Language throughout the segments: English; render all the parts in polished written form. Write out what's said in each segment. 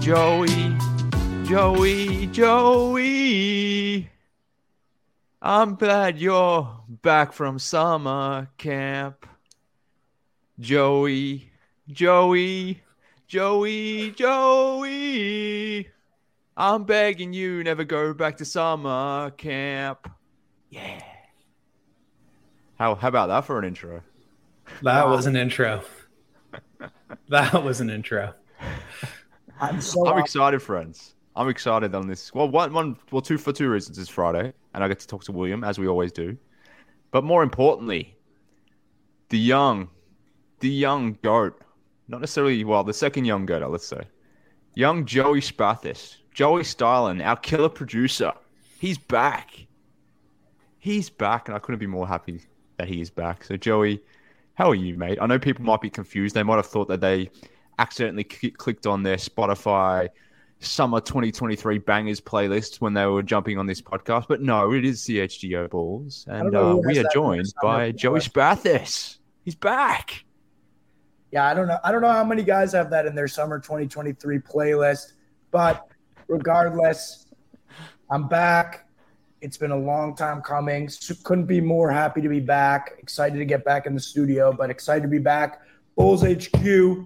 Joey, Joey. I'm glad you're back from summer camp. Joey. I'm begging you, never go back to summer camp. Yeah. How about that for an intro? That was an intro. I'm excited, friends. I'm excited on this. Well, for two reasons. It's Friday, and I get to talk to William, as we always do. But more importantly, the young goat. Not necessarily, the second young goat, let's say. Young Joey Spathis. Joey Stylen, our killer producer. He's back. And I couldn't be more happy that he is back. So, Joey, how are you, mate? I know people might be confused. They might have thought that they accidentally clicked on their Spotify Summer 2023 Bangers playlist when they were jumping on this podcast. But no, it is CHGO Balls. And we are joined by Joey Spathis. He's back. Yeah, I don't know how many guys have that in their Summer 2023 playlist. But regardless, I'm back. It's been a long time coming. Couldn't be more happy to be back. Excited to get back in the studio, but excited to be back. Bulls HQ.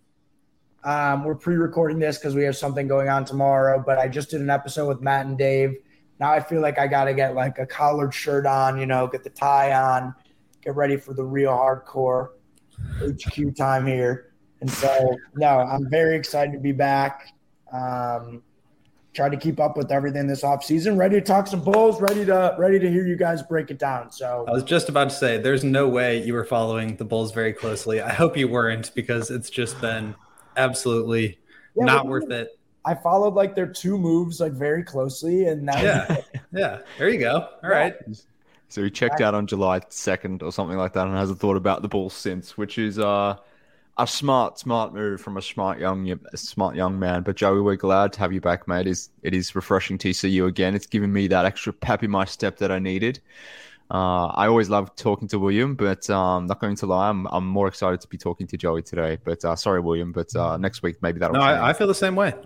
We're pre-recording this because we have something going on tomorrow, but I just did an episode with Matt and Dave. Now I feel like I got to get like a collared shirt on, get the tie on, get ready for the real hardcore HQ time here. And so, no, I'm very excited to be back. Try to keep up with everything this offseason. Ready to talk some Bulls. Ready to hear you guys break it down. So I was just about to say, there's no way you were following the Bulls very closely. I hope you weren't, because it's just been absolutely not worth it. I followed like their two moves like very closely, and now yeah. There you go. All right. So he checked out on July 2nd or something like that, and hasn't thought about the Bulls since, which is a smart move from a smart young man. But Joey, we're glad to have you back, mate. It is refreshing to see you again. It's given me that extra pep in my step that I needed. I always love talking to William, but not going to lie, I'm more excited to be talking to Joey today. But sorry, William, but next week maybe that'll change. I feel the same way.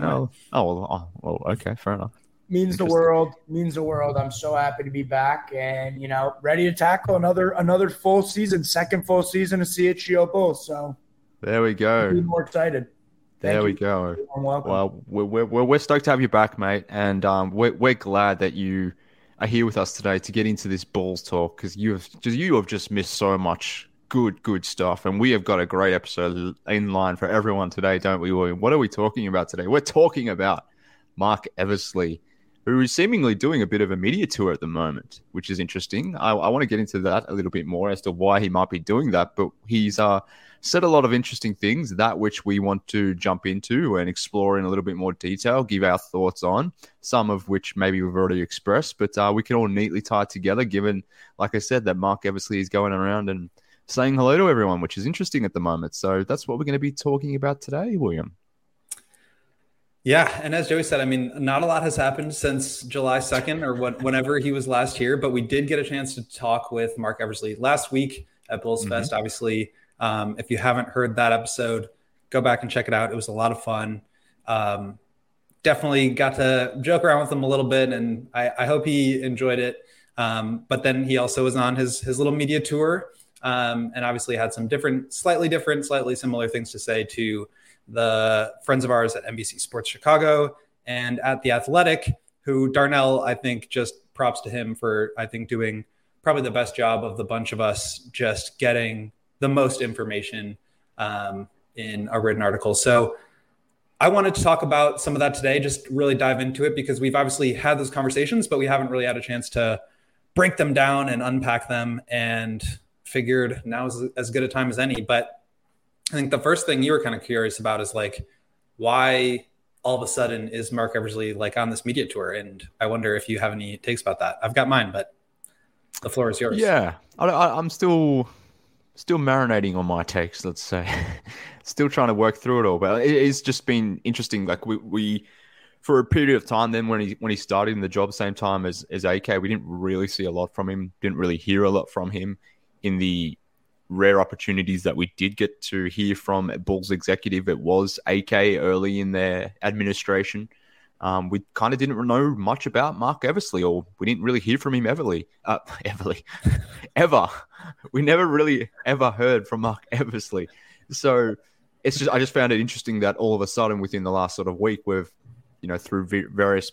Okay, fair enough. Means the world. I'm so happy to be back and, ready to tackle another full season, second full season of CHGO Bulls. So there we go. Be more excited. There we go. Welcome. Well, we're stoked to have you back, mate. And we're glad that you are here with us today to get into this Bulls talk, because you have just missed so much good stuff. And we have got a great episode in line for everyone today, don't we, William? What are we talking about today? We're talking about Marc Eversley, who is seemingly doing a bit of a media tour at the moment, which is interesting. I want to get into that a little bit more as to why he might be doing that, but he's said a lot of interesting things, that which we want to jump into and explore in a little bit more detail, give our thoughts on, some of which maybe we've already expressed, but we can all neatly tie it together, given, like I said, that Marc Eversley is going around and saying hello to everyone, which is interesting at the moment. So that's what we're going to be talking about today, William. Yeah, and as Joey said, I mean, not a lot has happened since July 2nd or whenever he was last here, but we did get a chance to talk with Marc Eversley last week at Bulls Fest. Obviously, if you haven't heard that episode, go back and check it out. It was a lot of fun. Definitely got to joke around with him a little bit, and I hope he enjoyed it. But then he also was on his little media tour, and obviously had some slightly similar things to say to the friends of ours at NBC Sports Chicago and at The Athletic, who Darnell, I think, just props to him for, I think, doing probably the best job of the bunch of us, just getting the most information in a written article. So I wanted to talk about some of that today, just really dive into it, because we've obviously had those conversations, but we haven't really had a chance to break them down and unpack them, and figured now is as good a time as any. But I think the first thing you were kind of curious about is like, why all of a sudden is Marc Eversley like on this media tour? And I wonder if you have any takes about that. I've got mine, but the floor is yours. Yeah, I'm still marinating on my takes, let's say. Still trying to work through it all, but it's just been interesting. Like we for a period of time then when he started in the job, same time as AK, we didn't really see a lot from him, didn't really hear a lot from him in the rare opportunities that we did get to hear from a Bulls executive, it was AK early in their administration. We kind of didn't know much about Mark Eversley, or we didn't really hear from him ever. We never really ever heard from Mark Eversley. So I just found it interesting that all of a sudden within the last sort of week, we've, through various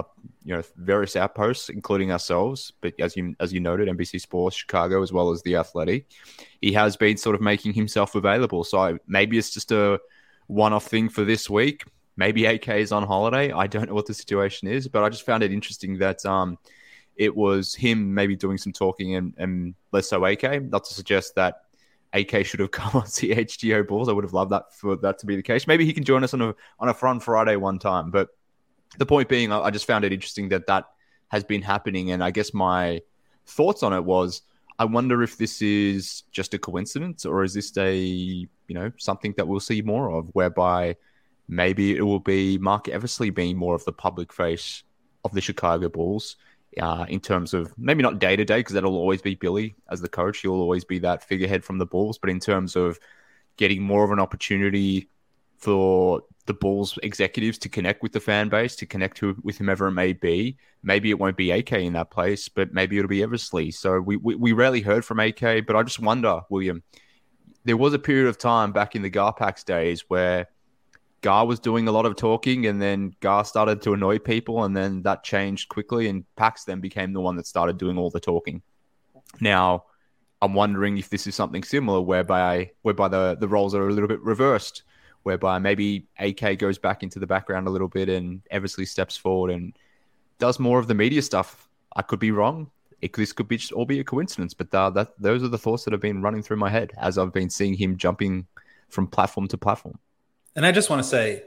outposts, including ourselves, but as you noted, NBC Sports, Chicago, as well as The Athletic, he has been sort of making himself available. So maybe it's just a one-off thing for this week. Maybe AK is on holiday. I don't know what the situation is, but I just found it interesting that it was him maybe doing some talking and less so AK. Not to suggest that AK should have come on CHGO Bulls. I would have loved that for that to be the case. Maybe he can join us on a Fun Friday one time. But the point being, I just found it interesting that has been happening. And I guess my thoughts on it was, I wonder if this is just a coincidence, or is this something that we'll see more of, whereby maybe it will be Mark Eversley being more of the public face of the Chicago Bulls, in terms of maybe not day-to-day, because that'll always be Billy as the coach. He'll always be that figurehead from the Bulls. But in terms of getting more of an opportunity for the Bulls executives to connect with the fan base, to connect with whomever it may be, maybe it won't be AK in that place, but maybe it'll be Eversley. So we rarely heard from AK, but I just wonder, William, there was a period of time back in the Garpax days where Gar was doing a lot of talking, and then Gar started to annoy people, and then that changed quickly, and Pax then became the one that started doing all the talking. Now, I'm wondering if this is something similar, whereby the roles are a little bit reversed, whereby maybe AK goes back into the background a little bit and Eversley steps forward and does more of the media stuff. I could be wrong. This could be just all be a coincidence, but those are the thoughts that have been running through my head as I've been seeing him jumping from platform to platform. And I just want to say,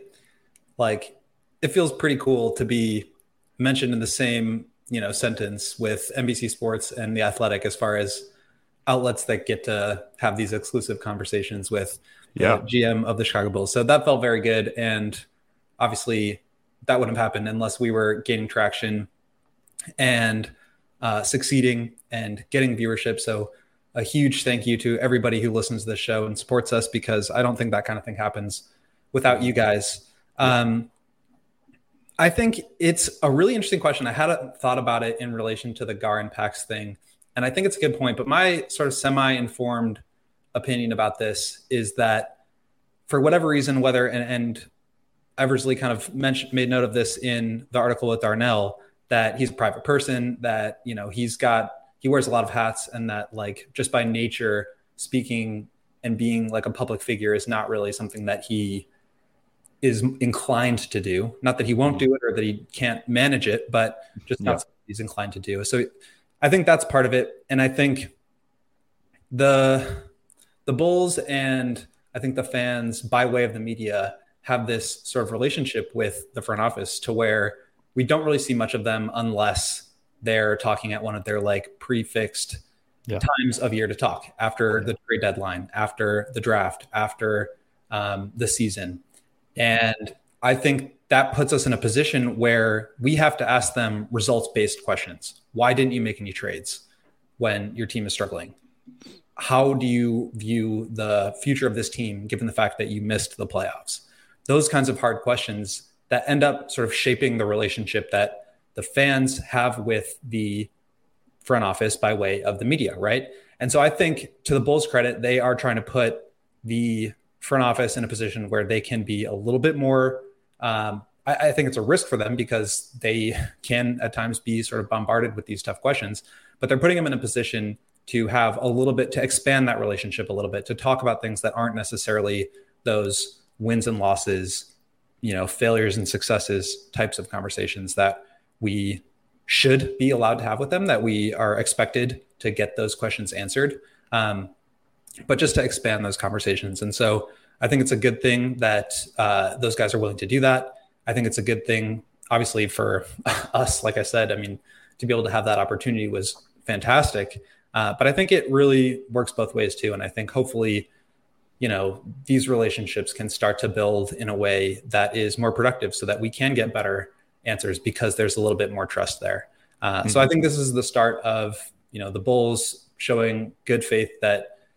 it feels pretty cool to be mentioned in the same, sentence with NBC Sports and The Athletic, as far as outlets that get to have these exclusive conversations with the GM of the Chicago Bulls. So that felt very good. And obviously that wouldn't have happened unless we were gaining traction and succeeding and getting viewership. So a huge thank you to everybody who listens to this show and supports us, because I don't think that kind of thing happens without you guys. I think it's a really interesting question. I hadn't thought about it in relation to the Gar and Pax thing, and I think it's a good point. But my sort of semi-informed opinion about this is that for whatever reason, and Eversley kind of made note of this in the article with Darnell, that he's a private person, that, he wears a lot of hats, and that just by nature, speaking and being like a public figure is not really something that he is inclined to do. Not that he won't do it or that he can't manage it, but just not something he's inclined to do. So I think that's part of it. And I think the Bulls and I think the fans, by way of the media, have this sort of relationship with the front office to where we don't really see much of them unless they're talking at one of their prefixed times of year to talk, after the trade deadline, after the draft, after the season. And I think that puts us in a position where we have to ask them results-based questions. Why didn't you make any trades when your team is struggling? How do you view the future of this team, given the fact that you missed the playoffs? Those kinds of hard questions that end up sort of shaping the relationship that the fans have with the front office by way of the media, right? And so I think, to the Bulls' credit, they are trying to put the front office in a position where they can be a little bit more, I think it's a risk for them, because they can at times be sort of bombarded with these tough questions, but they're putting them in a position to have a little bit, to expand that relationship a little bit, to talk about things that aren't necessarily those wins and losses, failures and successes types of conversations that we should be allowed to have with them, that we are expected to get those questions answered. But just to expand those conversations. And so I think it's a good thing that those guys are willing to do that. I think it's a good thing, obviously, for us. Like I said, to be able to have that opportunity was fantastic. But I think it really works both ways too. And I think hopefully, these relationships can start to build in a way that is more productive, so that we can get better answers, because there's a little bit more trust there. So I think this is the start of, the Bulls showing good faith that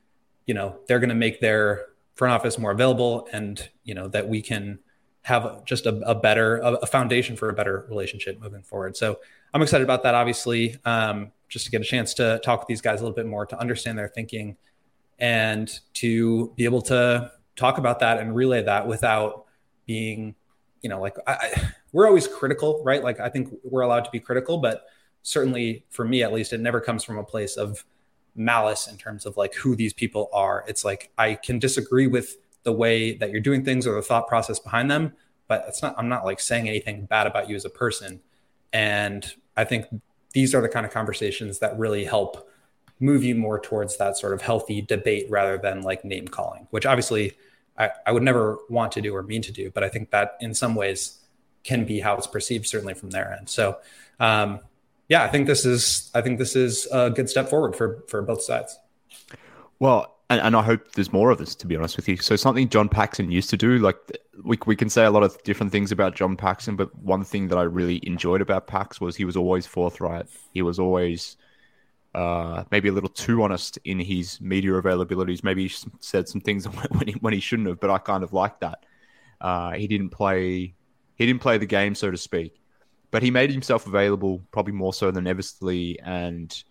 they're going to make their front office more available, and, that we can have just a foundation for a better relationship moving forward. So I'm excited about that, obviously, just to get a chance to talk with these guys a little bit more, to understand their thinking, and to be able to talk about that and relay that without being, we're always critical, right? Like, I think we're allowed to be critical, but certainly for me, at least, it never comes from a place of malice in terms of like who these people are. It's like, I can disagree with the way that you're doing things or the thought process behind them, but I'm not like saying anything bad about you as a person. And I think these are the kind of conversations that really help move you more towards that sort of healthy debate rather than like name calling, which obviously I would never want to do or mean to do, but I think that in some ways can be how it's perceived, certainly from their end. So, I think this is a good step forward for both sides. Well, and I hope there's more of this, to be honest with you. So something John Paxson used to do, like we can say a lot of different things about John Paxson, but one thing that I really enjoyed about Pax was he was always forthright. He was always maybe a little too honest in his media availabilities. Maybe he said some things when he shouldn't have, but I kind of liked that. He didn't play the game, so to speak, but he made himself available probably more so than Eversley and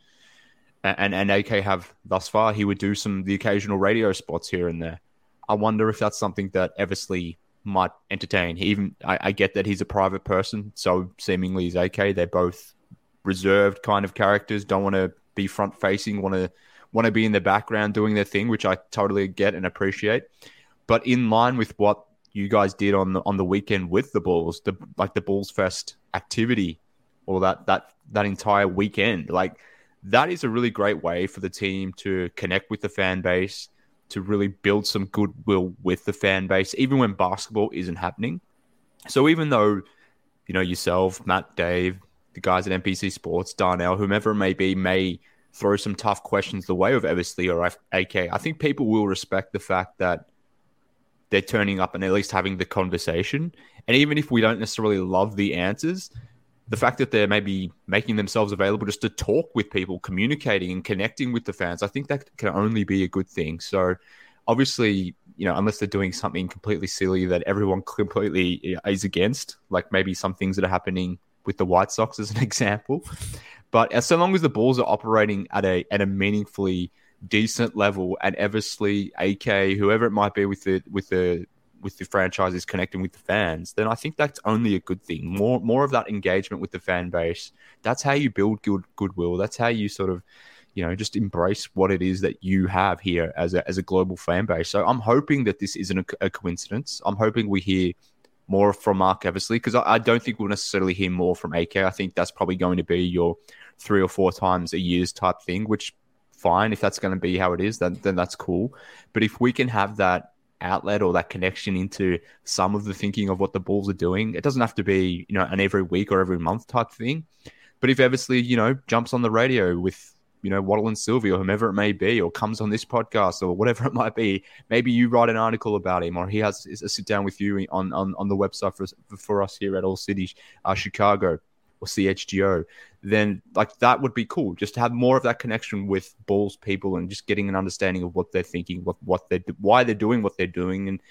AK have thus far. He would do the occasional radio spots here and there. I wonder if that's something that Eversley might entertain. I get that he's a private person, so seemingly is AK. They're both reserved kind of characters, don't want to be front facing, want to be in the background doing their thing, which I totally get and appreciate. But in line with what you guys did on the weekend with the Bulls, the Bulls Fest activity, or that entire weekend, like that is a really great way for the team to connect with the fan base, to really build some goodwill with the fan base, even when basketball isn't happening. So even though, yourself, Matt, Dave, the guys at NPC Sports, Darnell, whomever it may be, may throw some tough questions the way of Eversley or AK, I think people will respect the fact that they're turning up and at least having the conversation. And even if we don't necessarily love the answers, the fact that they're maybe making themselves available just to talk with people, communicating and connecting with the fans, I think that can only be a good thing. So obviously, unless they're doing something completely silly that everyone completely is against, like maybe some things that are happening with the White Sox as an example. But so long as the Bulls are operating at a meaningfully decent level, and Eversley, AK, whoever it might be with the franchises connecting with the fans, then I think that's only a good thing. More of that engagement with the fan base. That's how you build goodwill. That's how you sort of, just embrace what it is that you have here as a global fan base. So I'm hoping that this isn't a coincidence. I'm hoping we hear more from Marc Eversley, because I don't think we'll necessarily hear more from AK. I think that's probably going to be your 3 or 4 times a year's type thing, which fine. If that's going to be how it is, then that's cool. But if we can have that outlet or that connection into some of the thinking of what the Bulls are doing, it doesn't have to be, an every week or every month type thing. But if Eversley, jumps on the radio with, Waddle and Sylvie or whomever it may be, or comes on this podcast or whatever it might be, maybe you write an article about him, or he has a sit down with you on the website for us here at All City Chicago or CHGO, then like that would be cool. Just to have more of that connection with Bulls people and just getting an understanding of what they're thinking, why they're doing what they're doing, and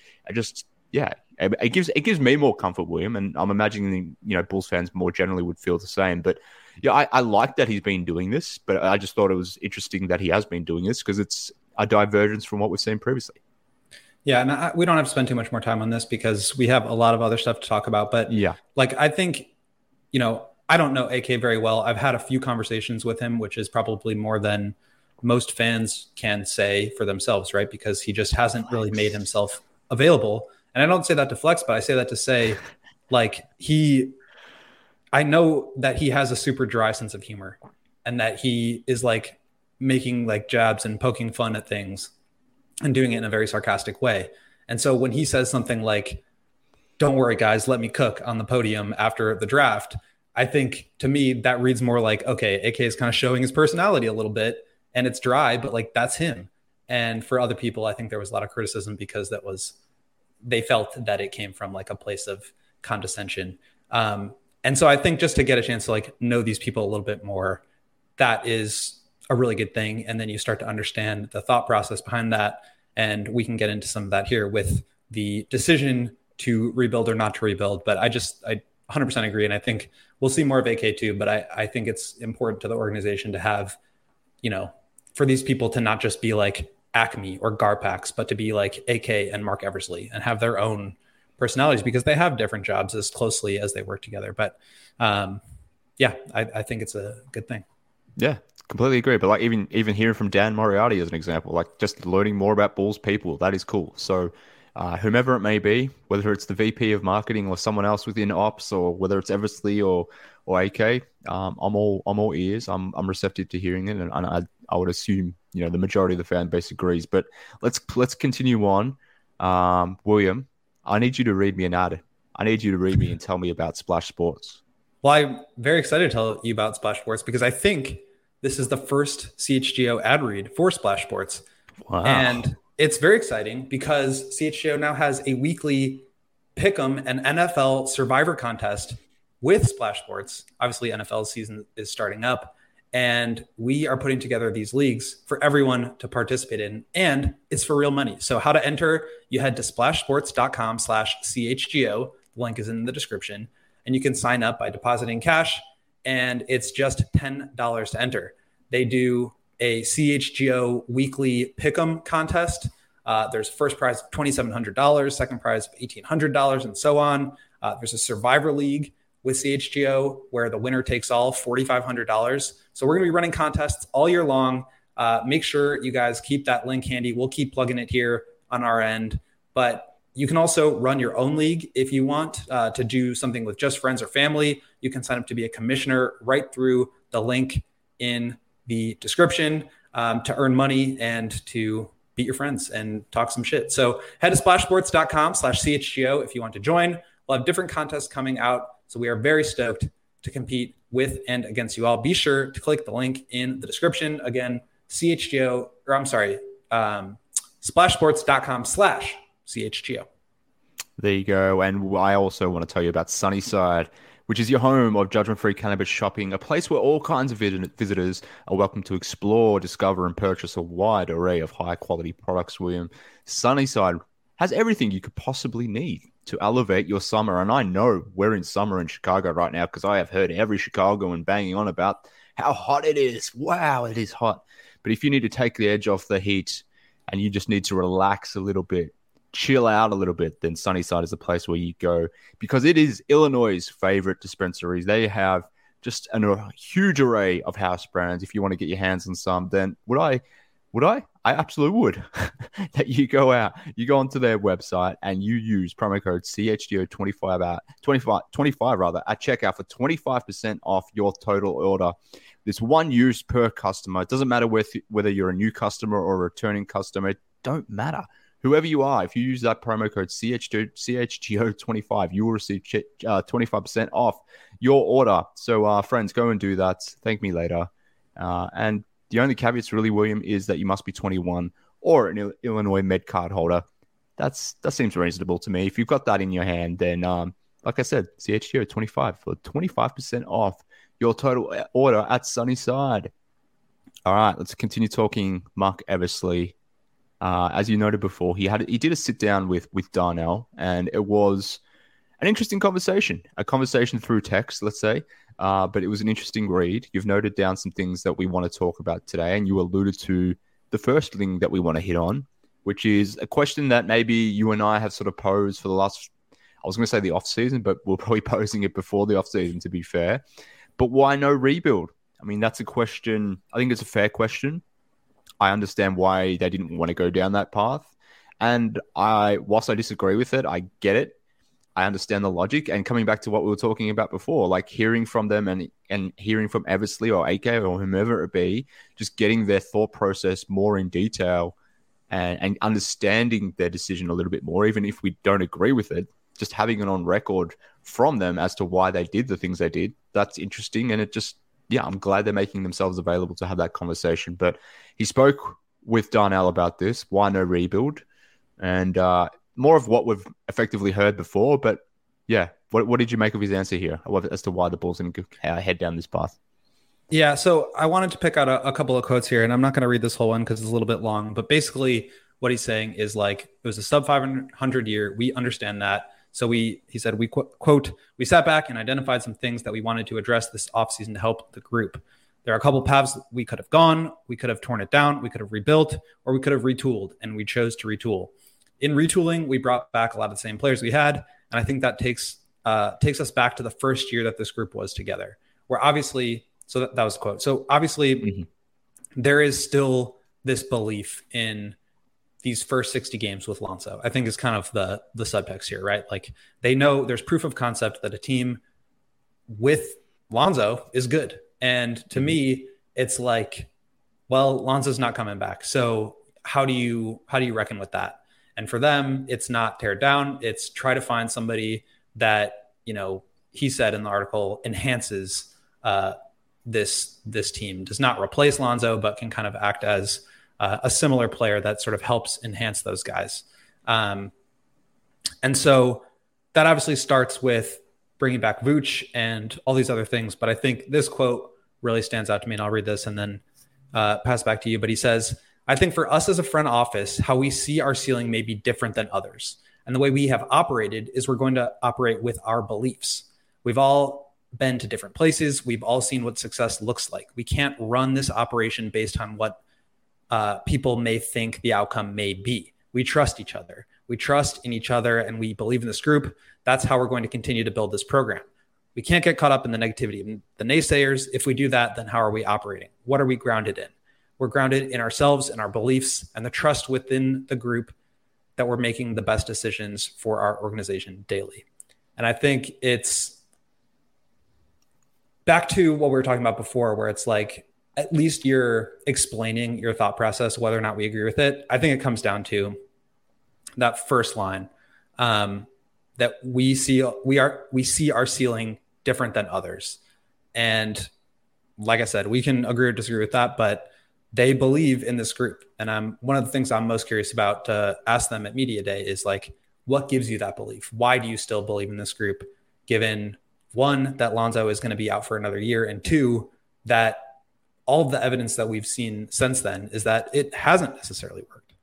it gives me more comfort, William, and I'm imagining Bulls fans more generally would feel the same. But yeah, I like that he's been doing this, but I just thought it was interesting that he has been doing this because it's a divergence from what we've seen previously. Yeah, and we don't have to spend too much more time on this because we have a lot of other stuff to talk about. But yeah, like I think, I don't know AK very well. I've had a few conversations with him, which is probably more than most fans can say for themselves, right? Because he just hasn't really made himself available. And I don't say that to flex, but I say that to say, like, I know that he has a super dry sense of humor and that he is like making like jabs and poking fun at things and doing it in a very sarcastic way. And so when he says something like, "Don't worry, guys, let me cook" on the podium after the draft, I think to me that reads more like, okay, AK is kind of showing his personality a little bit and it's dry, but like that's him. And for other people, I think there was a lot of criticism because they felt that it came from like a place of condescension. And so I think just to get a chance to like know these people a little bit more, that is a really good thing. And then you start to understand the thought process behind that. And we can get into some of that here with the decision to rebuild or not to rebuild. But I 100% agree. And I think we'll see more of AK too. But I think it's important to the organization to have, for these people to not just be like Acme or Garpax, but to be like AK and Mark Eversley and have their own personalities because they have different jobs as closely as they work together. But I think it's a good thing. Yeah, completely agree. But like even hearing from Dan Moriarty as an example, like just learning more about Bulls people, that is cool. So whomever it may be, whether it's the VP of marketing or someone else within ops, or whether it's Eversley or AK, I'm all ears. I'm receptive to hearing it, and I would assume the majority of the fan base agrees. But let's continue on. William, I need you to read me an ad. I need you to read me and tell me about Splash Sports. Well, I'm very excited to tell you about Splash Sports because I think this is the first CHGO ad read for Splash Sports. Wow. And it's very exciting because CHGO now has a weekly Pick'em and NFL Survivor contest with Splash Sports. Obviously, NFL season is starting up, and we are putting together these leagues for everyone to participate in, and it's for real money. So how to enter, you head to splashsports.com/CHGO. The link is in the description, and you can sign up by depositing cash, and it's just $10 to enter. They do a CHGO weekly Pick'em contest. There's first prize of $2,700, second prize of $1,800, and so on. There's a Survivor League with CHGO where the winner takes all, $4,500. So we're going to be running contests all year long. Make sure you guys keep that link handy. We'll keep plugging it here on our end. But you can also run your own league if you want to do something with just friends or family. You can sign up to be a commissioner right through the link in the description to earn money and to beat your friends and talk some shit. So head to splashsports.com/CHGO if you want to join. We'll have different contests coming out. So we are very stoked to compete with and against you all. Be sure to click the link in the description. Again, splashsports.com/CHGO. There you go. And I also want to tell you about Sunnyside, which is your home of judgment-free cannabis shopping, a place where all kinds of visitors are welcome to explore, discover, and purchase a wide array of high-quality products, William. Sunnyside has everything you could possibly need to elevate your summer. And I know we're in summer in Chicago right now because I have heard every Chicagoan banging on about how hot it is. Wow, it is hot. But if you need to take the edge off the heat and you just need to relax a little bit, chill out a little bit, then Sunnyside is the place where you go because it is Illinois' favorite dispensaries. They have just a huge array of house brands. If you want to get your hands on some, then would I? I absolutely would. That you go onto their website and you use promo code CHGO25 at checkout for 25% off your total order. There's one use per customer. It doesn't matter whether you're a new customer or a returning customer. It don't matter. Whoever you are, if you use that promo code CHGO25, you will receive 25% off your order. So, friends, go and do that. Thank me later. And the only caveats, really, William, is that you must be 21 or an Illinois Med card holder. That seems reasonable to me. If you've got that in your hand, then, like I said, CHGO25 for 25% off your total order at Sunnyside. All right, let's continue talking Mark Eversley. As you noted before, he did a sit down with Darnell, and it was an interesting conversation, a conversation through text, let's say. But it was an interesting read. You've noted down some things that we want to talk about today, and you alluded to the first thing that we want to hit on, which is a question that maybe you and I have sort of posed for the last, I was going to say the off season, but we're probably posing it before the off season, to be fair. But why no rebuild? I mean, that's a question. I think it's a fair question. I understand why they didn't want to go down that path. And whilst I disagree with it, I get it. I understand the logic. And coming back to what we were talking about before, like hearing from them and hearing from Eversley or AK or whomever it be, just getting their thought process more in detail and understanding their decision a little bit more, even if we don't agree with it, just having it on record from them as to why they did the things they did. That's interesting. And it just, I'm glad they're making themselves available to have that conversation. But he spoke with Darnell about this, why no rebuild, and more of what we've effectively heard before. But what did you make of his answer here as to why the Bulls didn't head down this path? Yeah, so I wanted to pick out a couple of quotes here, and I'm not going to read this whole one because it's a little bit long. But basically, what he's saying is like it was a sub 500 year. We understand that. So he said, quote, we sat back and identified some things that we wanted to address this offseason to help the group. There are a couple paths we could have gone. We could have torn it down. We could have rebuilt, or we could have retooled, and we chose to retool. In retooling, we brought back a lot of the same players we had, and I think that takes us back to the first year that this group was together, where obviously. So that was a quote. So obviously, there is still this belief in these first 60 games with Lonzo. I think is kind of the subtext here, right? Like they know there's proof of concept that a team with Lonzo is good. And to me, it's like, well, Lonzo's not coming back. So how do you reckon with that? And for them, it's not tear down. It's try to find somebody that, he said in the article enhances this team, does not replace Lonzo, but can kind of act as a similar player that sort of helps enhance those guys. And so that obviously starts with bringing back Vooch and all these other things. But I think this quote really stands out to me, and I'll read this and then pass back to you. But he says, I think for us as a front office, how we see our ceiling may be different than others. And the way we have operated is we're going to operate with our beliefs. We've all been to different places. We've all seen what success looks like. We can't run this operation based on what people may think the outcome may be. We trust each other. We trust in each other, and we believe in this group. That's how we're going to continue to build this program. We can't get caught up in the negativity of the naysayers. If we do that, then how are we operating? What are we grounded in? We're grounded in ourselves and our beliefs and the trust within the group that we're making the best decisions for our organization daily. And I think it's back to what we were talking about before, where it's like, at least you're explaining your thought process, whether or not we agree with it. I think it comes down to that first line, that we see our ceiling different than others. And like I said, we can agree or disagree with that, but they believe in this group. And one of the things I'm most curious about to ask them at Media Day is like, what gives you that belief? Why do you still believe in this group, given one, that Lonzo is going to be out for another year, and two, that all of the evidence that we've seen since then is that it hasn't necessarily worked.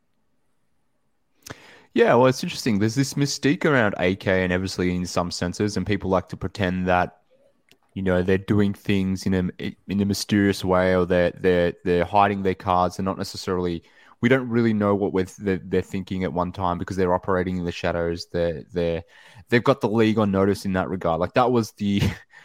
Yeah, well, it's interesting. There's this mystique around AK and Eversley in some senses, and people like to pretend that, they're doing things in a mysterious way, or they're hiding their cards. They're not necessarily. We don't really know what they're thinking at one time because they're operating in the shadows. They've got the league on notice in that regard. Like that was the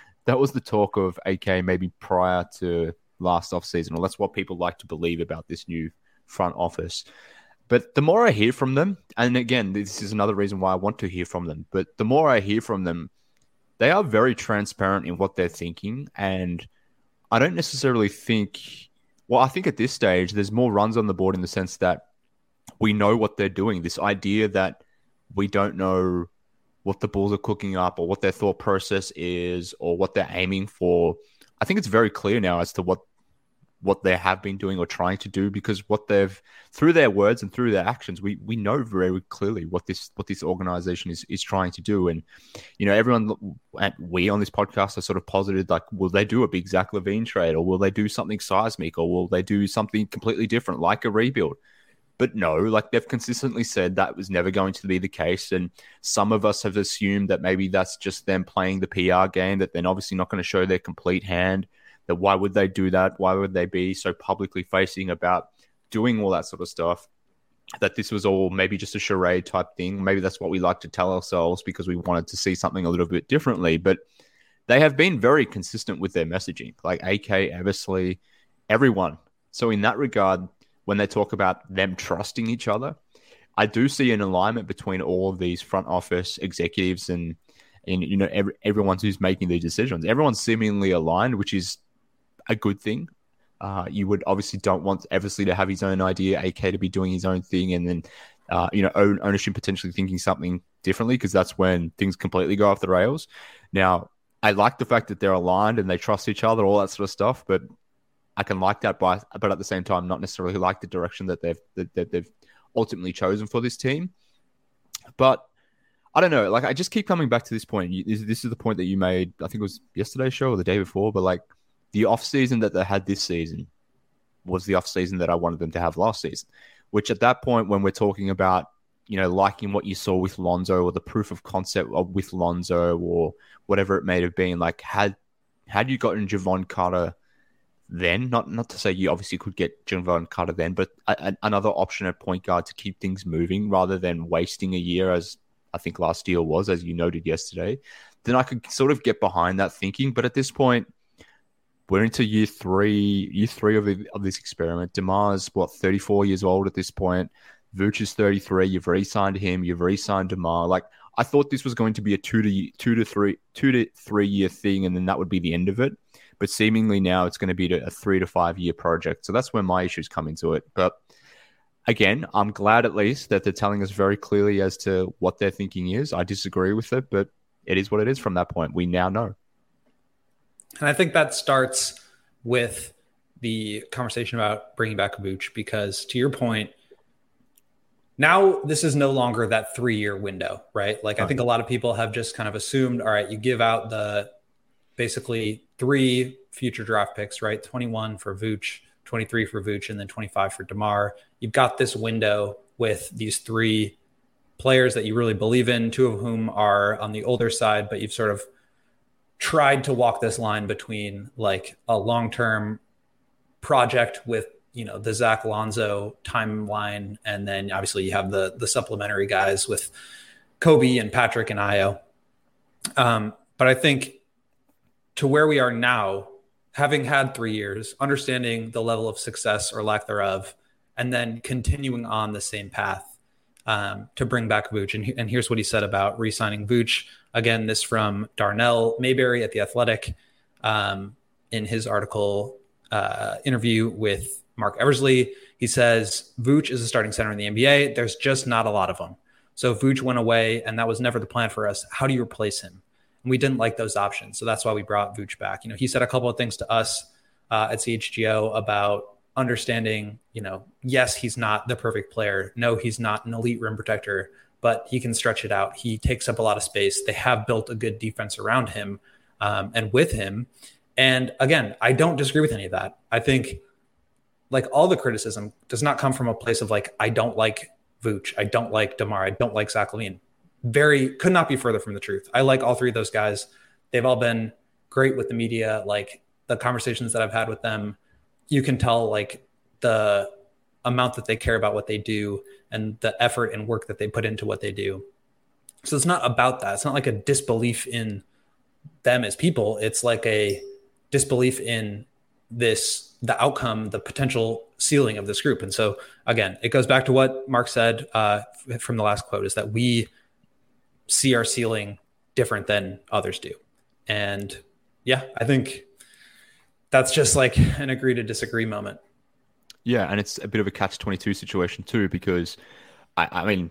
talk of AK maybe prior to last offseason, or that's what people like to believe about this new front office. But the more I hear from them, and again, this is another reason why I want to hear from them, but the more I hear from them, they are very transparent in what they're thinking. And I don't necessarily think, I think at this stage, there's more runs on the board in the sense that we know what they're doing. This idea that we don't know what the Bulls are cooking up or what their thought process is or what they're aiming for. I think it's very clear now as to what they have been doing or trying to do, because through their words and through their actions, we know very clearly what this organization is trying to do. And, everyone, we on this podcast are sort of posited, like, will they do a big Zach LaVine trade, or will they do something seismic, or will they do something completely different, like a rebuild? But no, like they've consistently said that was never going to be the case. And some of us have assumed that maybe that's just them playing the PR game, that they're obviously not going to show their complete hand. That why would they do that? Why would they be so publicly facing about doing all that sort of stuff? That this was all maybe just a charade type thing. Maybe that's what we like to tell ourselves because we wanted to see something a little bit differently. But they have been very consistent with their messaging, like AK, Eversley, everyone. So in that regard, when they talk about them trusting each other, I do see an alignment between all of these front office executives and everyone who's making these decisions. Everyone's seemingly aligned, which is a good thing. You would obviously don't want Eversley to have his own idea, AK to be doing his own thing, and then ownership potentially thinking something differently, because that's when things completely go off the rails. Now, I like the fact that they're aligned and they trust each other, all that sort of stuff, but I can like that, but at the same time, not necessarily like the direction that they've ultimately chosen for this team. But I don't know. Like, I just keep coming back to this point. This is the point that you made, I think it was yesterday's show or the day before, but like, the offseason that they had this season was the offseason that I wanted them to have last season, which at that point, when we're talking about, liking what you saw with Lonzo or the proof of concept with Lonzo or whatever it may have been, like had you gotten Jevon Carter then, not to say you obviously could get Jevon Carter then, but another option at point guard to keep things moving rather than wasting a year, as I think last year was, as you noted yesterday, then I could sort of get behind that thinking. But at this point, we're into year three of this experiment. DeMar's 34 years old at this point. Vooch is 33. You've re-signed him. You've re-signed DeMar. Like, I thought this was going to be a two to three year thing, and then that would be the end of it. But seemingly now it's going to be a 3 to 5 year project. So that's where my issues come into it. But again, I'm glad at least that they're telling us very clearly as to what their thinking is. I disagree with it, but it is what it is from that point. We now know. And I think that starts with the conversation about bringing back Vooch, because to your point, now this is no longer that 3-year window, right? Like, I think a lot of people have just kind of assumed, all right, you give out the basically 3 future draft picks, right? 21 for Vooch, 23 for Vooch, and then 25 for DeMar. You've got this window with these 3 players that you really believe in, 2 of whom are on the older side, but you've sort of tried to walk this line between like a long-term project with, the Zach Lonzo timeline. And then obviously you have the supplementary guys with Kobe and Patrick and Ayo. But I think to where we are now, having had 3 years, understanding the level of success or lack thereof, and then continuing on the same path to bring back Vooch. And here's what he said about re-signing Vooch. Again, this from Darnell Mayberry at The Athletic in his article interview with Mark Eversley. He says, Vooch is a starting center in the NBA. There's just not a lot of them. So Vooch went away, and that was never the plan for us. How do you replace him? And we didn't like those options. So that's why we brought Vooch back. He said a couple of things to us at CHGO about understanding, yes, he's not the perfect player. No, he's not an elite rim protector, but he can stretch it out. He takes up a lot of space. They have built a good defense around him and with him. And again, I don't disagree with any of that. I think like all the criticism does not come from a place of like, I don't like Vooch. I don't like DeMar. I don't like Zach LaVine. Could not be further from the truth. I like all 3 of those guys. They've all been great with the media. Like the conversations that I've had with them, you can tell like the amount that they care about what they do and the effort and work that they put into what they do. So it's not about that. It's not like a disbelief in them as people. It's like a disbelief in the outcome, the potential ceiling of this group. And so again, it goes back to what Mark said from the last quote, is that we see our ceiling different than others do. And yeah, I think that's just like an agree to disagree moment. Yeah, and it's a bit of a catch-22 situation too, because I mean,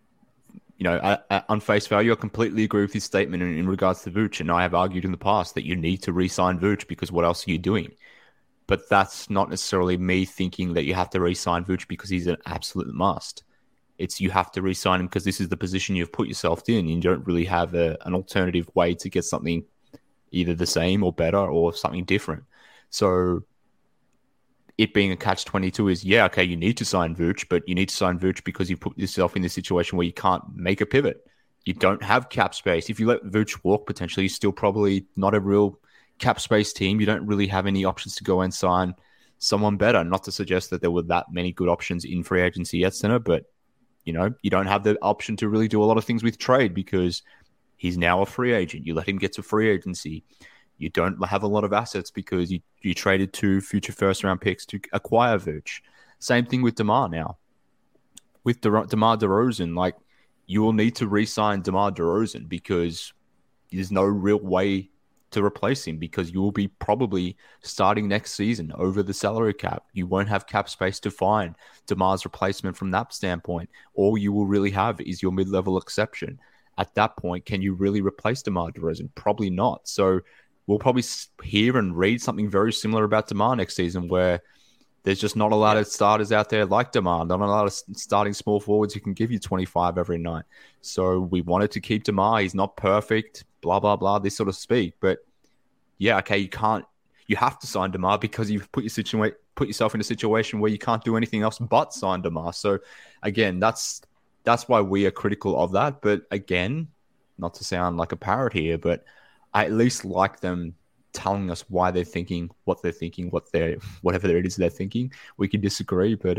on face value, I completely agree with his statement in regards to Vooch, and I have argued in the past that you need to re-sign Vooch because what else are you doing? But that's not necessarily me thinking that you have to re-sign Vooch because he's an absolute must. It's you have to re-sign him because this is the position you've put yourself in. You don't really have an alternative way to get something either the same or better or something different. So it being a catch-22 is, yeah, okay, you need to sign Vooch, but you need to sign Vooch because you put yourself in this situation where you can't make a pivot. You don't have cap space. If you let Vooch walk, potentially, you're still probably not a real cap space team. You don't really have any options to go and sign someone better. Not to suggest that there were that many good options in free agency at center, but you don't have the option to really do a lot of things with trade because he's now a free agent. You let him get to free agency. You don't have a lot of assets because you traded 2 future first-round picks to acquire Vooch. Same thing with DeMar now. With DeMar DeRozan, like, you will need to re-sign DeMar DeRozan because there's no real way to replace him because you will be probably starting next season over the salary cap. You won't have cap space to find DeMar's replacement from that standpoint. All you will really have is your mid-level exception. At that point, can you really replace DeMar DeRozan? Probably not. So we'll probably hear and read something very similar about DeMar next season where there's just not a lot of starters out there like DeMar, not a lot of starting small forwards who can give you 25 every night. So we wanted to keep DeMar. He's not perfect, blah, blah, blah, this sort of speak. But yeah, okay, you have to sign DeMar because you've put yourself in a situation where you can't do anything else but sign DeMar. So again, that's why we are critical of that. But again, not to sound like a parrot here, but I at least like them telling us why they're thinking, whatever it is they're thinking. We could disagree, but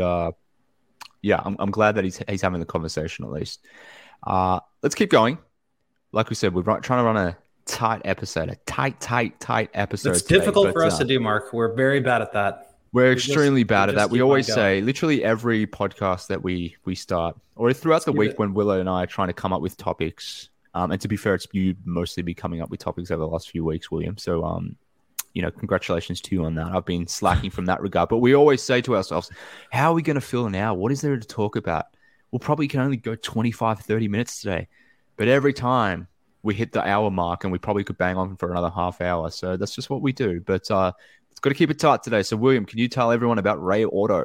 yeah, I'm glad that he's having the conversation at least. Let's keep going. Like we said, we're trying to run a tight episode, a tight episode. It's difficult for us to do, Mark. We're very bad at that. We're extremely bad at that. We always say, literally every podcast that we start, or throughout the week when Willow and I are trying to come up with topics. And to be fair, it's you mostly be coming up with topics over the last few weeks, William. So, congratulations to you on that. I've been slacking from that regard. But we always say to ourselves, how are we going to feel now? What is there to talk about? We'll probably can only go 25, 30 minutes today. But every time we hit the hour mark, and we probably could bang on for another half hour. So that's just what we do. But it's got to keep it tight today. So, William, can you tell everyone about Ray Auto?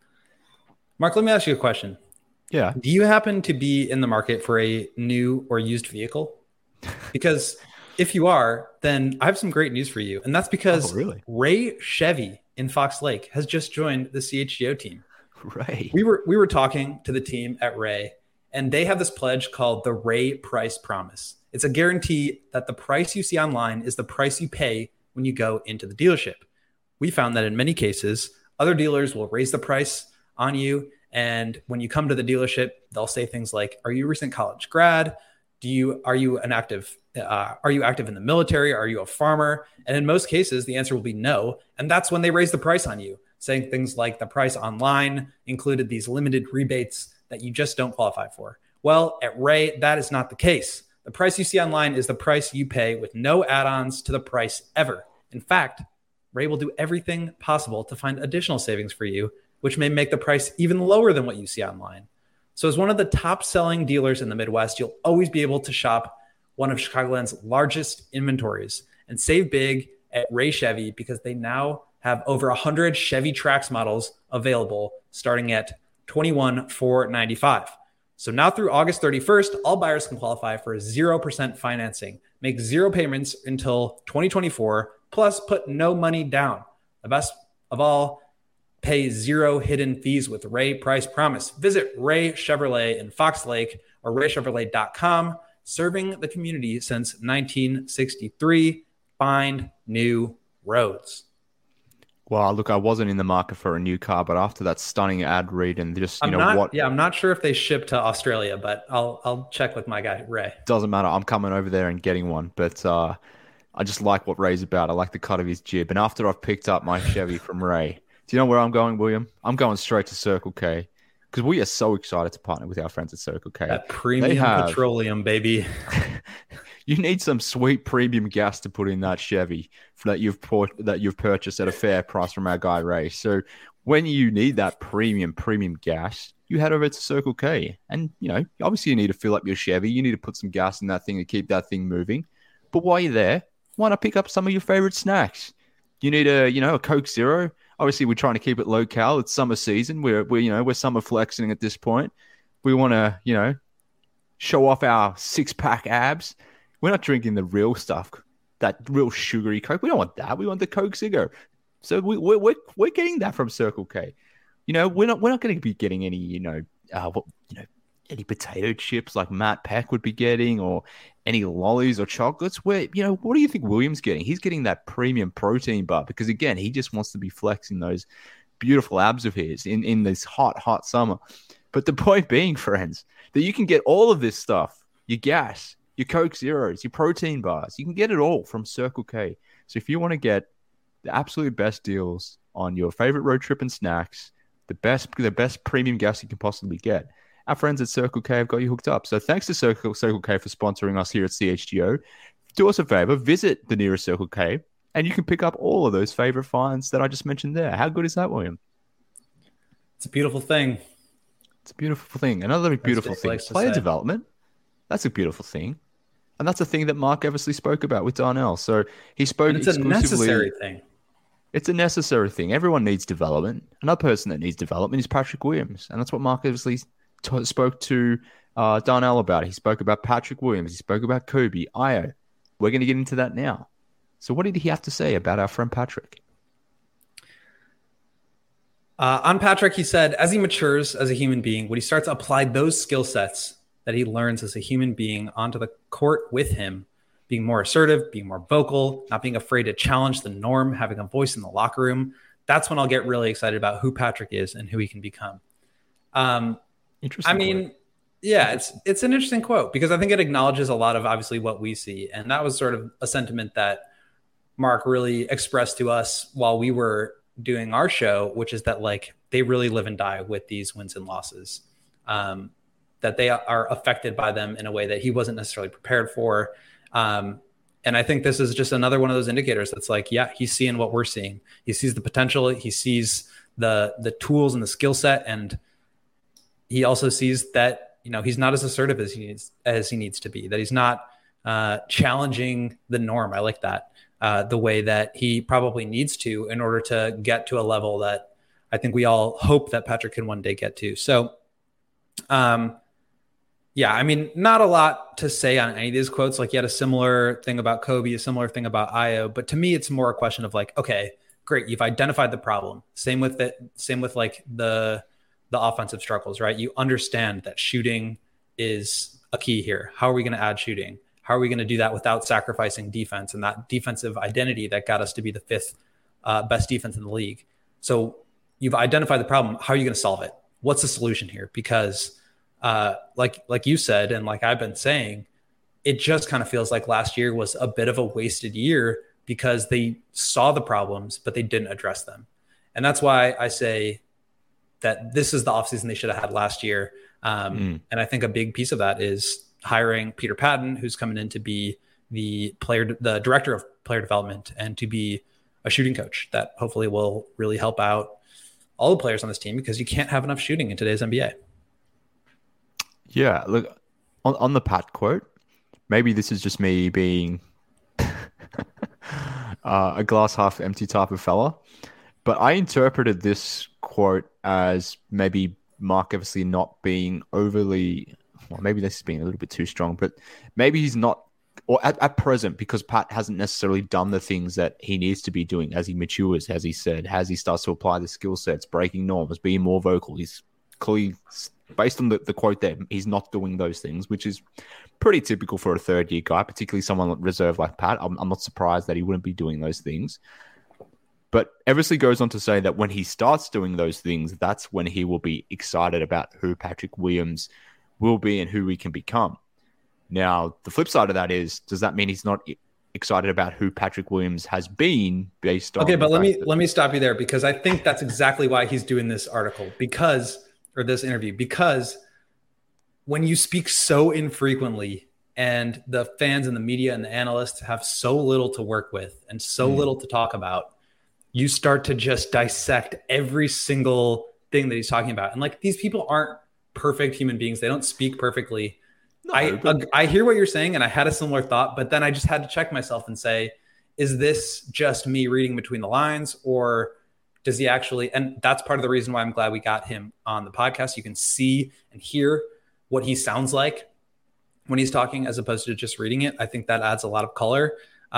Mark, let me ask you a question. Yeah. Do you happen to be in the market for a new or used vehicle? Because if you are, then I have some great news for you. And that's because Ray Chevy in Fox Lake has just joined the CHGO team. Right. We were talking to the team at Ray, and they have this pledge called the Ray Price Promise. It's a guarantee that the price you see online is the price you pay when you go into the dealership. We found that in many cases, other dealers will raise the price on you. And when you come to the dealership, they'll say things like, are you a recent college grad? Are you active in the military? Are you a farmer? And in most cases, the answer will be no. And that's when they raise the price on you, saying things like the price online included these limited rebates that you just don't qualify for. Well, at Ray, that is not the case. The price you see online is the price you pay with no add-ons to the price ever. In fact, Ray will do everything possible to find additional savings for you, which may make the price even lower than what you see online. So as one of the top selling dealers in the Midwest, you'll always be able to shop one of Chicagoland's largest inventories and save big at Ray Chevy because they now have over 100 Chevy Trax models available starting at $21,495. So now through August 31st, all buyers can qualify for 0% financing, make 0 payments until 2024, plus put no money down. The best of all, pay 0 hidden fees with Ray Price Promise. Visit Ray Chevrolet in Fox Lake or raychevrolet.com. Serving the community since 1963. Find new roads. Well, look, I wasn't in the market for a new car, but after that stunning ad read and just, I'm not sure if they ship to Australia, but I'll check with my guy, Ray. Doesn't matter. I'm coming over there and getting one, but I just like what Ray's about. I like the cut of his jib. And after I've picked up my Chevy from Ray, do you know where I'm going, William? I'm going straight to Circle K because we are so excited to partner with our friends at Circle K. That premium petroleum, baby. You need some sweet premium gas to put in that Chevy that you've purchased at a fair price from our guy Ray. So when you need that premium gas, you head over to Circle K. And, obviously you need to fill up your Chevy. You need to put some gas in that thing to keep that thing moving. But while you're there, why not pick up some of your favorite snacks? You need a Coke Zero. Obviously, we're trying to keep it low-cal. It's summer season. We're summer flexing at this point. We want to, show off our six-pack abs. We're not drinking the real stuff, that real sugary Coke. We don't want that. We want the Coke Zero. So we're getting that from Circle K. We're not going to be getting any any potato chips like Matt Peck would be getting, or any lollies or chocolates. What do you think William's getting? He's getting that premium protein bar because, again, he just wants to be flexing those beautiful abs of his in this hot summer. But the point being, friends, that you can get all of this stuff, your gas, your Coke Zeros, your protein bars, you can get it all from Circle K. So if you want to get the absolute best deals on your favorite road trip and snacks, the best premium gas you can possibly get, our friends at Circle K have got you hooked up. So thanks to Circle K for sponsoring us here at CHGO. Do us a favor, visit the nearest Circle K, and you can pick up all of those favorite finds that I just mentioned there. How good is that, William? It's a beautiful thing. It's a beautiful thing. Another beautiful thing. Player development. That's a beautiful thing. And that's a thing that Mark Eversley spoke about with Darnell. So he spoke exclusively. It's a necessary thing. It's a necessary thing. Everyone needs development. Another person that needs development is Patrick Williams. And that's what Mark Eversley spoke to Darnell about. He spoke about Patrick Williams. He spoke about Kobe, Io. We're going to get into that now. So what did he have to say about our friend Patrick? On Patrick, he said, as he matures as a human being, when he starts to apply those skill sets that he learns as a human being onto the court with him, being more assertive, being more vocal, not being afraid to challenge the norm, having a voice in the locker room, that's when I'll get really excited about who Patrick is and who he can become. Interesting. I mean, yeah, it's an interesting quote because I think it acknowledges a lot of obviously what we see. And that was sort of a sentiment that Mark really expressed to us while we were doing our show, which is that like they really live and die with these wins and losses, that they are affected by them in a way that he wasn't necessarily prepared for. And I think this is just another one of those indicators that's like, yeah, he's seeing what we're seeing. He sees the potential. He sees the tools and the skill set. And he also sees that, you know, he's not as assertive as he needs to be, that he's not challenging the norm. I like that. The way that he probably needs to in order to get to a level that I think we all hope that Patrick can one day get to. So, yeah, I mean, not a lot to say on any of these quotes. Like, you had a similar thing about Kobe, a similar thing about Ayo, but to me, it's more a question of like, okay, great, you've identified the problem. Same with like the offensive struggles, right? You understand that shooting is a key here. How are we going to add shooting? How are we going to do that without sacrificing defense and that defensive identity that got us to be the fifth best defense in the league? So you've identified the problem. How are you going to solve it? What's the solution here? Because like you said, and like I've been saying, it just kind of feels like last year was a bit of a wasted year because they saw the problems, but they didn't address them. And that's why I say that this is the offseason they should have had last year. And I think a big piece of that is hiring Peter Patton, who's coming in to be the director of player development and to be a shooting coach that hopefully will really help out all the players on this team because you can't have enough shooting in today's NBA. Yeah, look, on the Pat quote, maybe this is just me being a glass half empty type of fella, but I interpreted this quote as maybe Mark Eversley not being overly, well, maybe this is being a little bit too strong, but maybe he's not, or at present, because Pat hasn't necessarily done the things that he needs to be doing as he matures, as he said, as he starts to apply the skill sets, breaking norms, being more vocal. He's clearly, based on the quote there, he's not doing those things, which is pretty typical for a third-year guy, particularly someone reserved like Pat. I'm not surprised that he wouldn't be doing those things. But Eversley goes on to say that when he starts doing those things, that's when he will be excited about who Patrick Williams will be and who he can become. Now, the flip side of that is, does that mean he's not excited about who Patrick Williams has been based on? Okay, but let me stop you there because I think that's exactly why he's doing this article or this interview, because when you speak so infrequently and the fans and the media and the analysts have so little to work with and so little to talk about, you start to just dissect every single thing that he's talking about. And like, these people aren't perfect human beings. They don't speak perfectly. No, I hear what you're saying, and I had a similar thought, but then I just had to check myself and say, is this just me reading between the lines, or does he actually? And that's part of the reason why I'm glad we got him on the podcast. You can see and hear what he sounds like when he's talking, as opposed to just reading it. I think that adds a lot of color.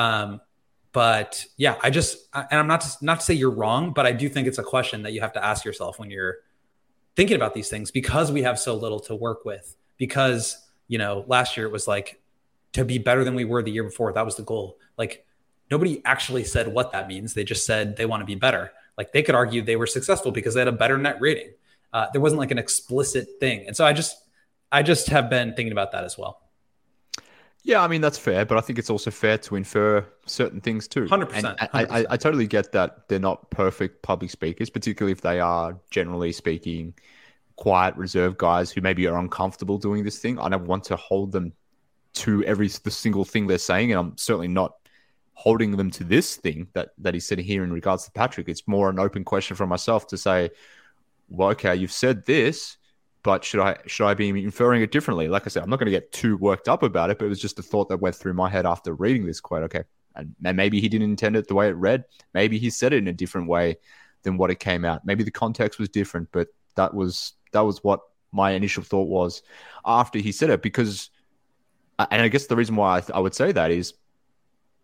But yeah, and I'm not to say you're wrong, but I do think it's a question that you have to ask yourself when you're thinking about these things, because we have so little to work with. Because, you know, last year it was like to be better than we were the year before. That was the goal. Like, nobody actually said what that means. They just said they want to be better. Like, they could argue they were successful because they had a better net rating. There wasn't like an explicit thing. And so I just have been thinking about that as well. Yeah, I mean, that's fair, but I think it's also fair to infer certain things too. 100%. I totally get that they're not perfect public speakers, particularly if they are, generally speaking, quiet, reserved guys who maybe are uncomfortable doing this thing. I don't want to hold them to the single thing they're saying, and I'm certainly not holding them to this thing that he's sitting here in regards to Patrick. It's more an open question for myself to say, well, okay, you've said this, but should I be inferring it differently? Like I said, I'm not going to get too worked up about it, but it was just a thought that went through my head after reading this quote. Okay, and maybe he didn't intend it the way it read. Maybe he said it in a different way than what it came out. Maybe the context was different, but that was what my initial thought was after he said it. Because, and I guess the reason why I would say that is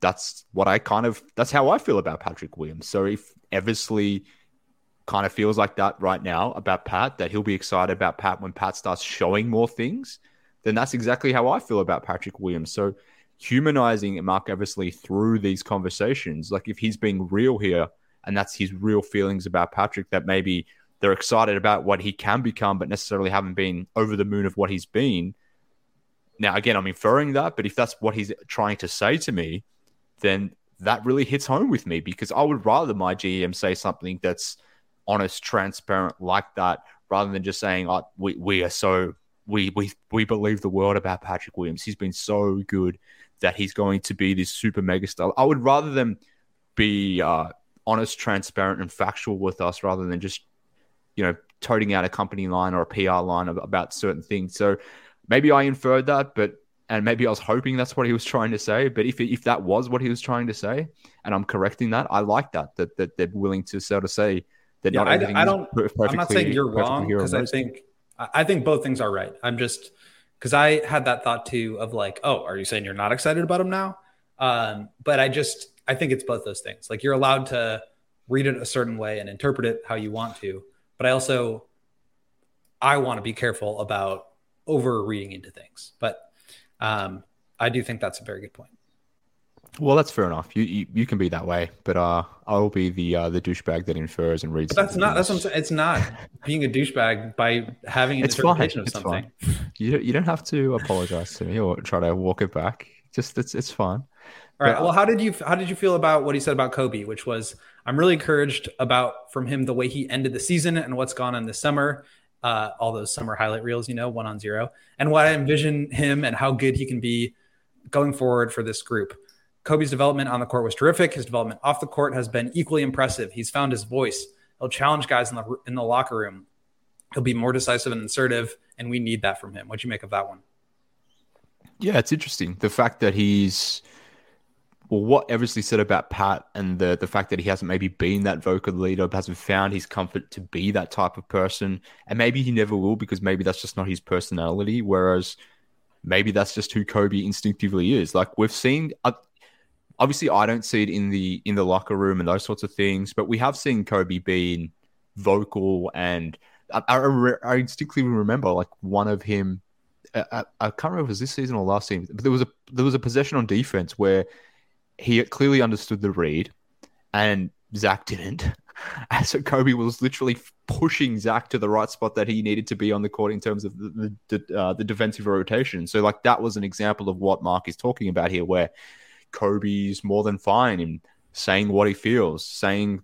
that's how I feel about Patrick Williams. So if Eversley kind of feels like that right now about Pat, that he'll be excited about Pat when Pat starts showing more things, then that's exactly how I feel about Patrick Williams. So humanizing Mark Eversley through these conversations, like if he's being real here and that's his real feelings about Patrick, that maybe they're excited about what he can become, but necessarily haven't been over the moon of what he's been. Now, again, I'm inferring that, but if that's what he's trying to say to me, then that really hits home with me, because I would rather my GM say something that's honest, transparent like that, rather than just saying, oh, we believe the world about Patrick Williams. He's been so good that he's going to be this super mega star. I would rather them be honest, transparent, and factual with us, rather than just, toting out a company line or a PR line about certain things. So maybe I inferred that, and maybe I was hoping that's what he was trying to say. But if that was what he was trying to say, and I'm correcting that, I like that they're willing to sort of say that not everything is perfectly. I'm not saying you're wrong, because I think both things are right. I'm just, because I had that thought too of like, oh, are you saying you're not excited about him now? But I think it's both those things. Like, you're allowed to read it a certain way and interpret it how you want to. But I want to be careful about over reading into things. But I do think that's a very good point. Well, that's fair enough. You can be that way, but I'll be the douchebag that infers and reads. But that's what I'm saying. It's not being a douchebag by having an interpretation of something. Fine. You don't have to apologize to me or try to walk it back. Just it's fine. All right. Well, how did you feel about what he said about Kobe, which was, I'm really encouraged from him the way he ended the season and what's gone on this summer. All those summer highlight reels, 1-on-0, and what I envision him and how good he can be going forward for this group. Kobe's development on the court was terrific. His development off the court has been equally impressive. He's found his voice. He'll challenge guys in the locker room. He'll be more decisive and assertive, and we need that from him. What'd you make of that one? Yeah, it's interesting. The fact that what Eversley said about Pat, and the fact that he hasn't maybe been that vocal leader, hasn't found his comfort to be that type of person, and maybe he never will, because maybe that's just not his personality, whereas maybe that's just who Kobe instinctively is. Like, we've seen, obviously I don't see it in the locker room and those sorts of things, but we have seen Kobe being vocal, and I instinctively remember like one of him, I can't remember if it was this season or last season, but there was a possession on defense where he clearly understood the read and Zach didn't. And so Kobe was literally pushing Zach to the right spot that he needed to be on the court in terms of the defensive rotation. So like, that was an example of what Mark is talking about here, where Kobe's more than fine in saying what he feels, saying,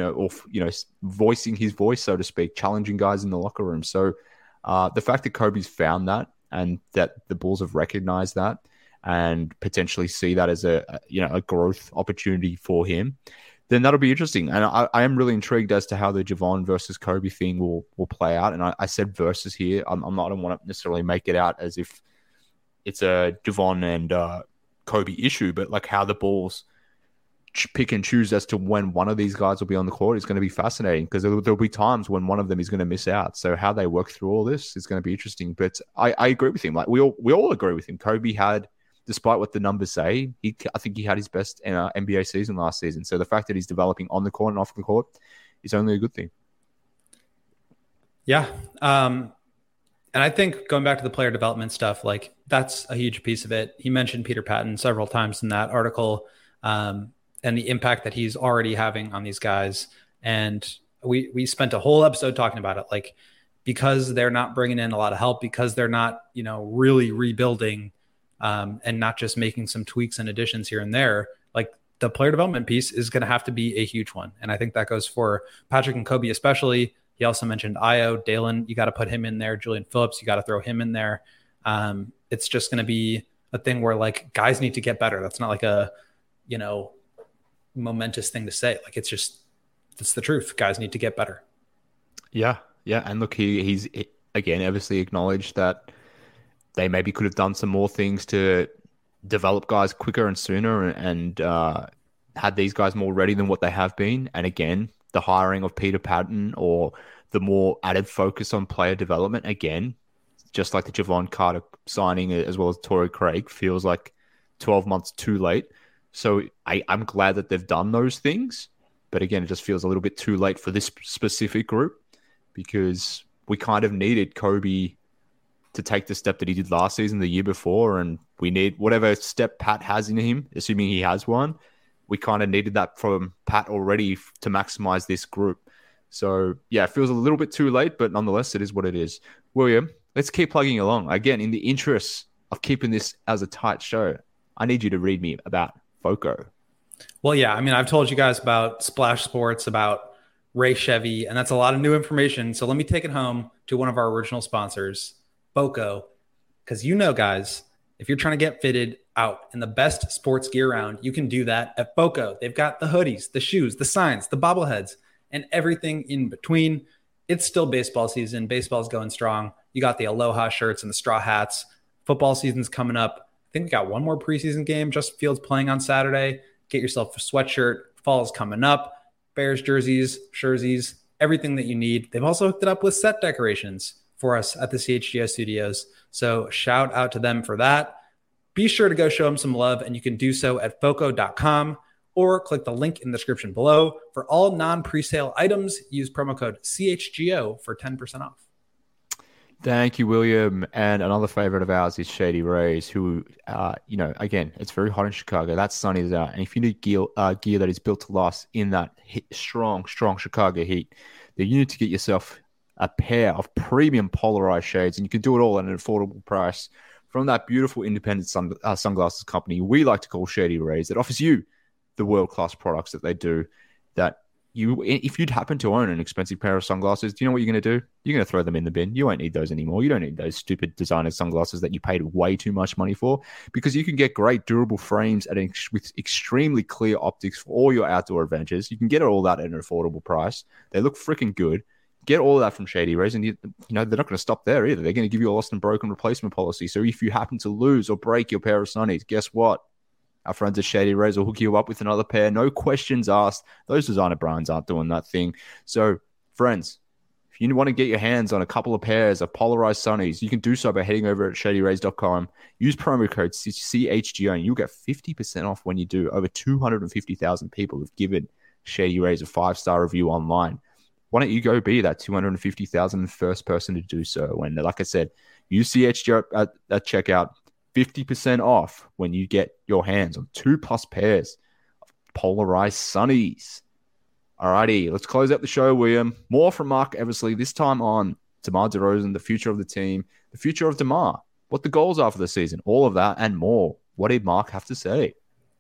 voicing his voice, so to speak, challenging guys in the locker room. So the fact that Kobe's found that, and that the Bulls have recognized that, and potentially see that as a growth opportunity for him, then that'll be interesting. And I am really intrigued as to how the Javon versus Kobe thing will play out. And I said versus here. I don't want to necessarily make it out as if it's a Javon and Kobe issue, but like how the Bulls pick and choose as to when one of these guys will be on the court is going to be fascinating, because there'll be times when one of them is going to miss out. So how they work through all this is going to be interesting. But I agree with him. Like, we all agree with him. Kobe had, despite what the numbers say, I think he had his best NBA season last season. So the fact that he's developing on the court and off the court is only a good thing. Yeah. And I think going back to the player development stuff, like, that's a huge piece of it. He mentioned Peter Patton several times in that article, and the impact that he's already having on these guys. And we spent a whole episode talking about it, like, because they're not bringing in a lot of help, because they're not, really rebuilding, and not just making some tweaks and additions here and there, like, the player development piece is going to have to be a huge one. And I think that goes for Patrick and Kobe especially. He also mentioned Ayo, Dalen, you got to put him in there. Julian Phillips, you got to throw him in there. It's just going to be a thing where, like, guys need to get better. That's not like a, momentous thing to say. Like, it's the truth. Guys need to get better. Yeah. And look, he's again obviously acknowledged that they maybe could have done some more things to develop guys quicker and sooner, and had these guys more ready than what they have been. And again, the hiring of Peter Patton, or the more added focus on player development, again, just like the Javon Carter signing as well as Torrey Craig, feels like 12 months too late. So I'm glad that they've done those things. But again, it just feels a little bit too late for this specific group because we kind of needed Kobe to take the step that he did last season, the year before, and we need whatever step Pat has in him, assuming he has one. We kind of needed that from Pat already to maximize this group. So, yeah, it feels a little bit too late, but nonetheless, it is what it is. William, let's keep plugging along. Again, in the interest of keeping this as a tight show, I need you to read me about FOCO. Well, yeah, I mean, I've told you guys about Splash Sports, about Ray Chevy, and that's a lot of new information. So let me take it home to one of our original sponsors, FOCO, because guys, if you're trying to get fitted out in the best sports gear around, you can do that at FOCO. They've got the hoodies, the shoes, the signs, the bobbleheads, and everything in between. It's still baseball season. Baseball's going strong. You got the Aloha shirts and the straw hats. Football season's coming up. I think we got one more preseason game. Justin Fields playing on Saturday. Get yourself a sweatshirt. Fall's coming up. Bears jerseys, everything that you need. They've also hooked it up with set decorations for us at the CHGO studios. So shout out to them for that. Be sure to go show them some love, and you can do so at foco.com or click the link in the description below. For all non-presale items, use promo code CHGO for 10% off. Thank you, William. And another favorite of ours is Shady Rays, who, again, it's very hot in Chicago. That sun is out. And if you need gear that is built to last in that strong Chicago heat, then you need to get yourself a pair of premium polarized shades, and you can do it all at an affordable price from that beautiful independent sunglasses company we like to call Shady Rays, that offers you the world-class products that they do. That if you'd happen to own an expensive pair of sunglasses, do you know what you're going to do? You're going to throw them in the bin. You won't need those anymore. You don't need those stupid designer sunglasses that you paid way too much money for, because you can get great durable frames with extremely clear optics for all your outdoor adventures. You can get all that at an affordable price. They look freaking good. Get all of that from Shady Rays, and they're not going to stop there either. They're going to give you a lost and broken replacement policy. So if you happen to lose or break your pair of sunnies, guess what? Our friends at Shady Rays will hook you up with another pair. No questions asked. Those designer brands aren't doing that thing. So, friends, if you want to get your hands on a couple of pairs of polarized sunnies, you can do so by heading over at shadyrays.com. Use promo code CHGO, and you'll get 50% off when you do. Over 250,000 people have given Shady Rays a 5-star review online. Why don't you go be that 250,000 first person to do so? And like I said, use CHGO at checkout. 50% off when you get your hands on 2+ pairs of polarized sunnies. Alrighty, let's close out the show, William. More from Marc Eversley, this time on DeMar DeRozan, the future of the team, the future of DeMar, what the goals are for the season, all of that and more. What did Marc have to say?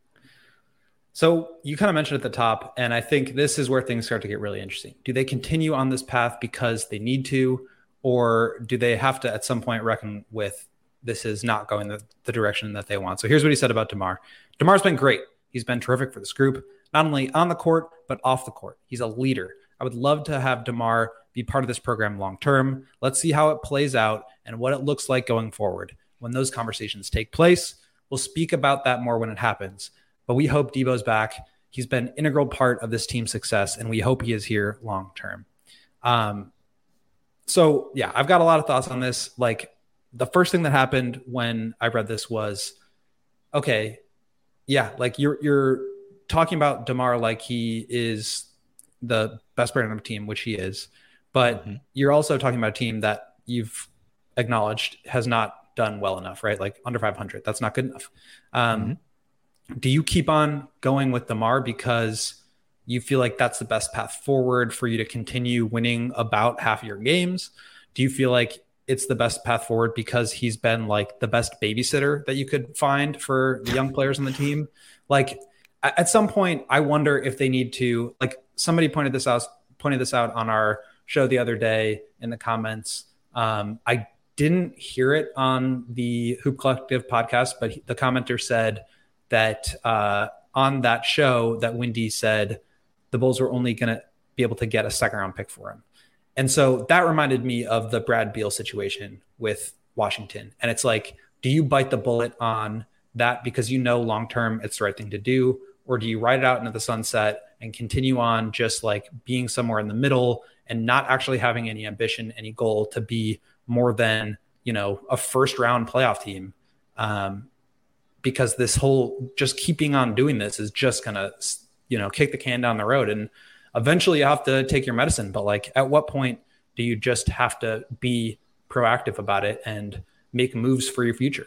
So you kind of mentioned at the top, and I think this is where things start to get really interesting. Do they continue on this path because they need to, or do they have to at some point reckon with this is not going the direction that they want? So here's what he said about DeMar. DeMar's been great. He's been terrific for this group, not only on the court, but off the court. He's a leader. I would love to have DeMar be part of this program long-term. Let's see how it plays out and what it looks like going forward. When those conversations take place, we'll speak about that more when it happens. But we hope Debo's back. He's been an integral part of this team's success, and we hope he is here long-term. So yeah, I've got a lot of thoughts on this. Like, the first thing that happened when I read this was, okay, yeah, like you're talking about DeMar like he is the best player on the team, which he is, but you're also talking about a team that you've acknowledged has not done well enough, right? Like under 500, that's not good enough. Do you keep on going with DeMar because you feel like that's the best path forward for you to continue winning about half of your games? Do you feel like it's the best path forward because he's been like the best babysitter that you could find for the young players on the team? Like at some point, I wonder if they need to, like somebody pointed this out on our show the other day in the comments. I didn't hear it on the Hoop Collective podcast, but the commenter said that on that show that Wendy said the Bulls were only going to be able to get a second-round pick for him. And so that reminded me of the Brad Beal situation with Washington. And it's like, do you bite the bullet on that because you know long-term it's the right thing to do? Or do you ride it out into the sunset and continue on just like being somewhere in the middle and not actually having any ambition, any goal to be more than, a first-round playoff team? because this whole just keeping on doing this is just going to, kick the can down the road. And eventually you have to take your medicine. But like, at what point do you just have to be proactive about it and make moves for your future?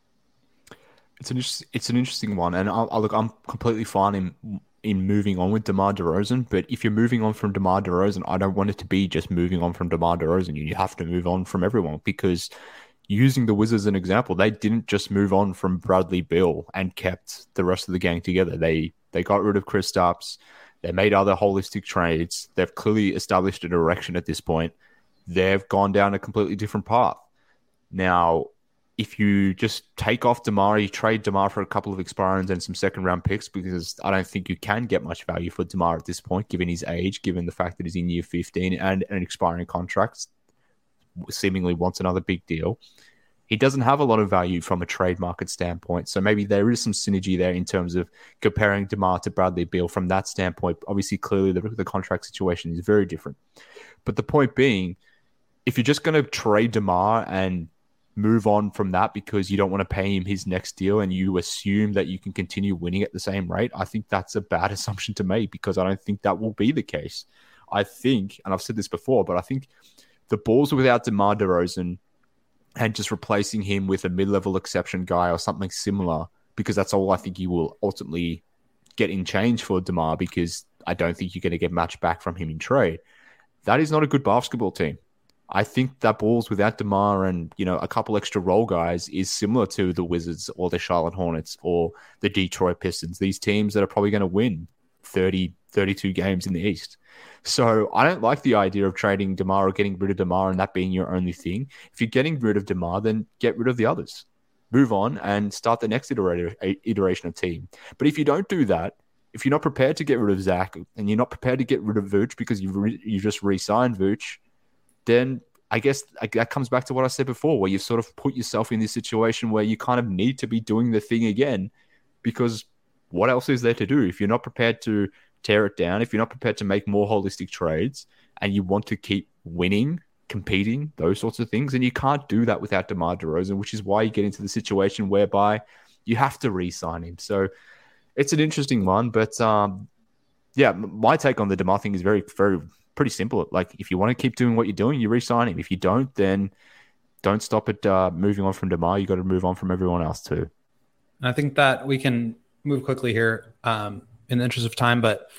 It's an interesting one. And I'm completely fine in moving on with DeMar DeRozan. But if you're moving on from DeMar DeRozan, I don't want it to be just moving on from DeMar DeRozan. You have to move on from everyone, because using the Wizards as an example, they didn't just move on from Bradley Beal and kept the rest of the gang together. They got rid of Kristaps. They made other holistic trades. They've clearly established a direction at this point. They've gone down a completely different path. Now, if you just take off DeMar, you trade DeMar for a couple of expirings and some second-round picks, because I don't think you can get much value for DeMar at this point, given his age, given the fact that he's in year 15 and an expiring contract, seemingly wants another big deal. He doesn't have a lot of value from a trade market standpoint. So maybe there is some synergy there in terms of comparing DeMar to Bradley Beal from that standpoint. Obviously, clearly, the contract situation is very different. But the point being, if you're just going to trade DeMar and move on from that because you don't want to pay him his next deal and you assume that you can continue winning at the same rate, I think that's a bad assumption to make, because I don't think that will be the case. I think, and I've said this before, but I think the Bulls without DeMar DeRozan and just replacing him with a mid-level exception guy or something similar, because that's all I think you will ultimately get in change for DeMar, because I don't think you're going to get much back from him in trade. That is not a good basketball team. I think that Bulls without DeMar and, a couple extra role guys is similar to the Wizards or the Charlotte Hornets or the Detroit Pistons, these teams that are probably going to win 30, 32 games in the East. So I don't like the idea of trading DeMar or getting rid of DeMar and that being your only thing. If you're getting rid of DeMar, then get rid of the others. Move on and start the next iteration of team. But if you don't do that, if you're not prepared to get rid of Zach and you're not prepared to get rid of Vooch because you just re-signed Vooch, then I guess that comes back to what I said before, where you've sort of put yourself in this situation where you kind of need to be doing the thing again, because what else is there to do? If you're not prepared to tear it down, if you're not prepared to make more holistic trades and you want to keep winning, competing, those sorts of things, and you can't do that without DeMar DeRozan, which is why you get into the situation whereby you have to re-sign him. So it's an interesting one, but my take on the DeMar thing is very, very pretty simple. Like, if you want to keep doing what you're doing, you re-sign him. If you don't, then don't stop at moving on from DeMar. You got to move on from everyone else too. I think that we can move quickly here in the interest of time, but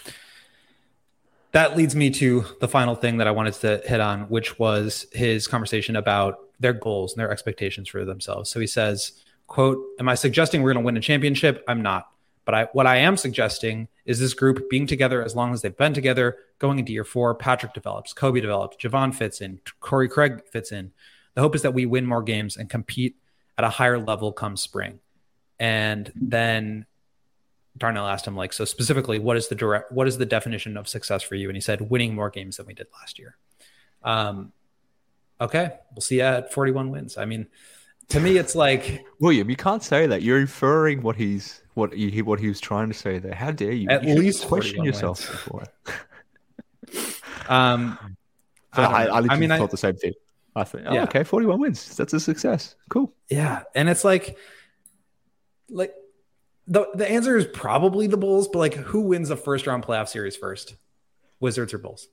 that leads me to the final thing that I wanted to hit on, which was his conversation about their goals and their expectations for themselves. So he says, quote, "Am I suggesting we're going to win a championship? I'm not. But what I am suggesting is this group being together as long as they've been together, going into year 4, Patrick develops, Kobe develops, Javon fits in, Corey Craig fits in. The hope is that we win more games and compete at a higher level come spring." And then Darnell asked him, so specifically, what is the definition of success for you? And he said, winning more games than we did last year. Okay, we'll see you at 41 wins. I mean, to me, it's like, William, you can't say that. You're inferring what he was trying to say there. How dare you? At least question yourself before. I thought the same thing. I think, okay, 41 wins. That's a success. Cool. Yeah, and it's like the answer is probably the Bulls, but who wins the first round playoff series first? Wizards or Bulls?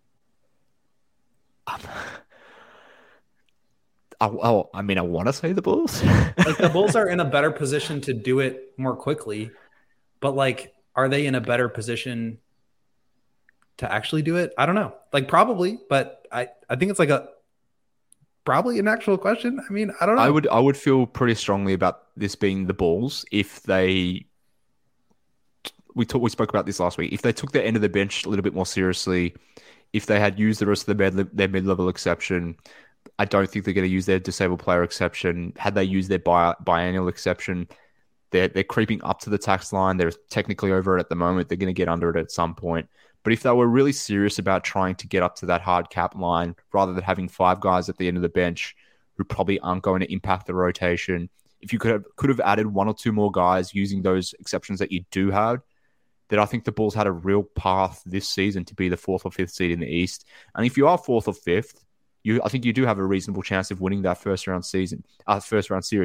I want to say the Bulls. The Bulls are in a better position to do it more quickly, but are they in a better position to actually do it? I don't know. Probably, but I think it's probably an actual question. I mean, I don't know. I would feel pretty strongly about this being the Bulls if they. We spoke about this last week. If they took their end of the bench a little bit more seriously, if they had used the rest of their mid-level exception. I don't think they're going to use their disabled player exception. Had they used their biennial exception, they're creeping up to the tax line. They're technically over it at the moment. They're going to get under it at some point. But if they were really serious about trying to get up to that hard cap line, rather than having 5 guys at the end of the bench who probably aren't going to impact the rotation, if you could have added 1 or 2 more guys using those exceptions that you do have, then I think the Bulls had a real path this season to be the 4th or 5th seed in the East. And if you are 4th or 5th, I think you do have a reasonable chance of winning that first round series.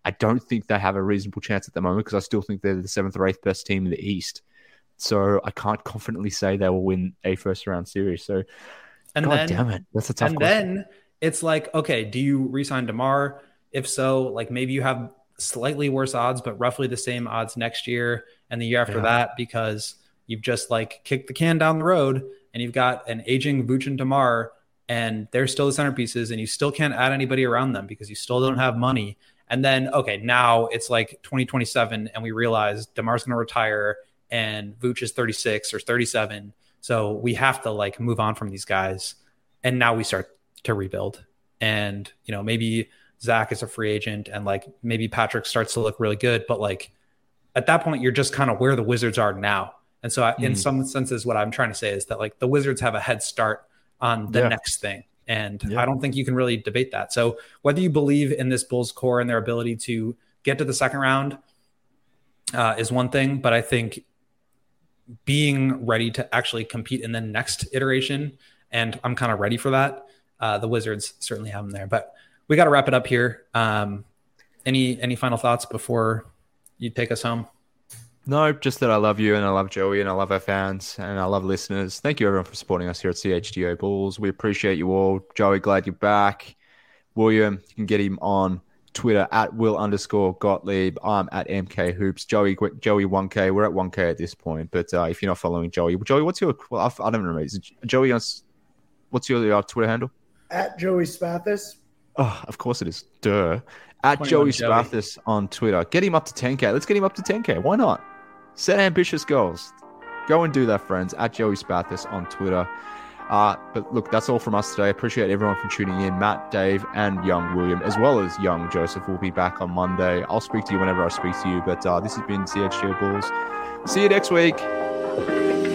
I don't think they have a reasonable chance at the moment because I still think they're the 7th or 8th best team in the East. So I can't confidently say they will win a first-round series. So, God damn it, that's a tough question. And then it's like, okay, do you re-sign DeMar? If so, like maybe you have slightly worse odds, but roughly the same odds next year and the year after that, because you've just like kicked the can down the road and you've got an aging Vooch and DeMar, and they're still the centerpieces, and you still can't add anybody around them because you still don't have money. And then, okay, now it's like 2027 and we realize DeMar's going to retire and Vooch is 36 or 37. So we have to like move on from these guys. And now we start to rebuild. And, you know, maybe Zach is a free agent and like maybe Patrick starts to look really good. But like at that point, you're just kind of where the Wizards are now. And so in some senses, what I'm trying to say is that like the Wizards have a head start on the next thing. And I don't think you can really debate that. So whether you believe in this Bulls core and their ability to get to the second round is one thing. But I think being ready to actually compete in the next iteration, and I'm kind of ready for that. The Wizards certainly have them there. But we got to wrap it up here. Any final thoughts before you take us home? No, just that I love you and I love Joey and I love our fans and I love listeners. Thank you everyone for supporting us here at CHGO Bulls. We appreciate you all. Joey, glad you're back. William, you can get him on Twitter at Will_Gottlieb. I'm at MK Hoops. Joey 1K. We're at 1K at this point. But if you're not following Joey, what's your? Well, I don't remember. Is it Joey? What's your Twitter handle? At Joey Spathis. Oh, of course it is. Duh. At Joey Spathis on Twitter. Get him up to 10K. Let's get him up to 10K. Why not? Set ambitious goals. Go and do that, friends. At Joey Spathis on Twitter. But look, that's all from us today. Appreciate everyone for tuning in. Matt, Dave, and young William, as well as young Joseph, will be back on Monday. I'll speak to you whenever I speak to you. But this has been CHGO Bulls. See you next week.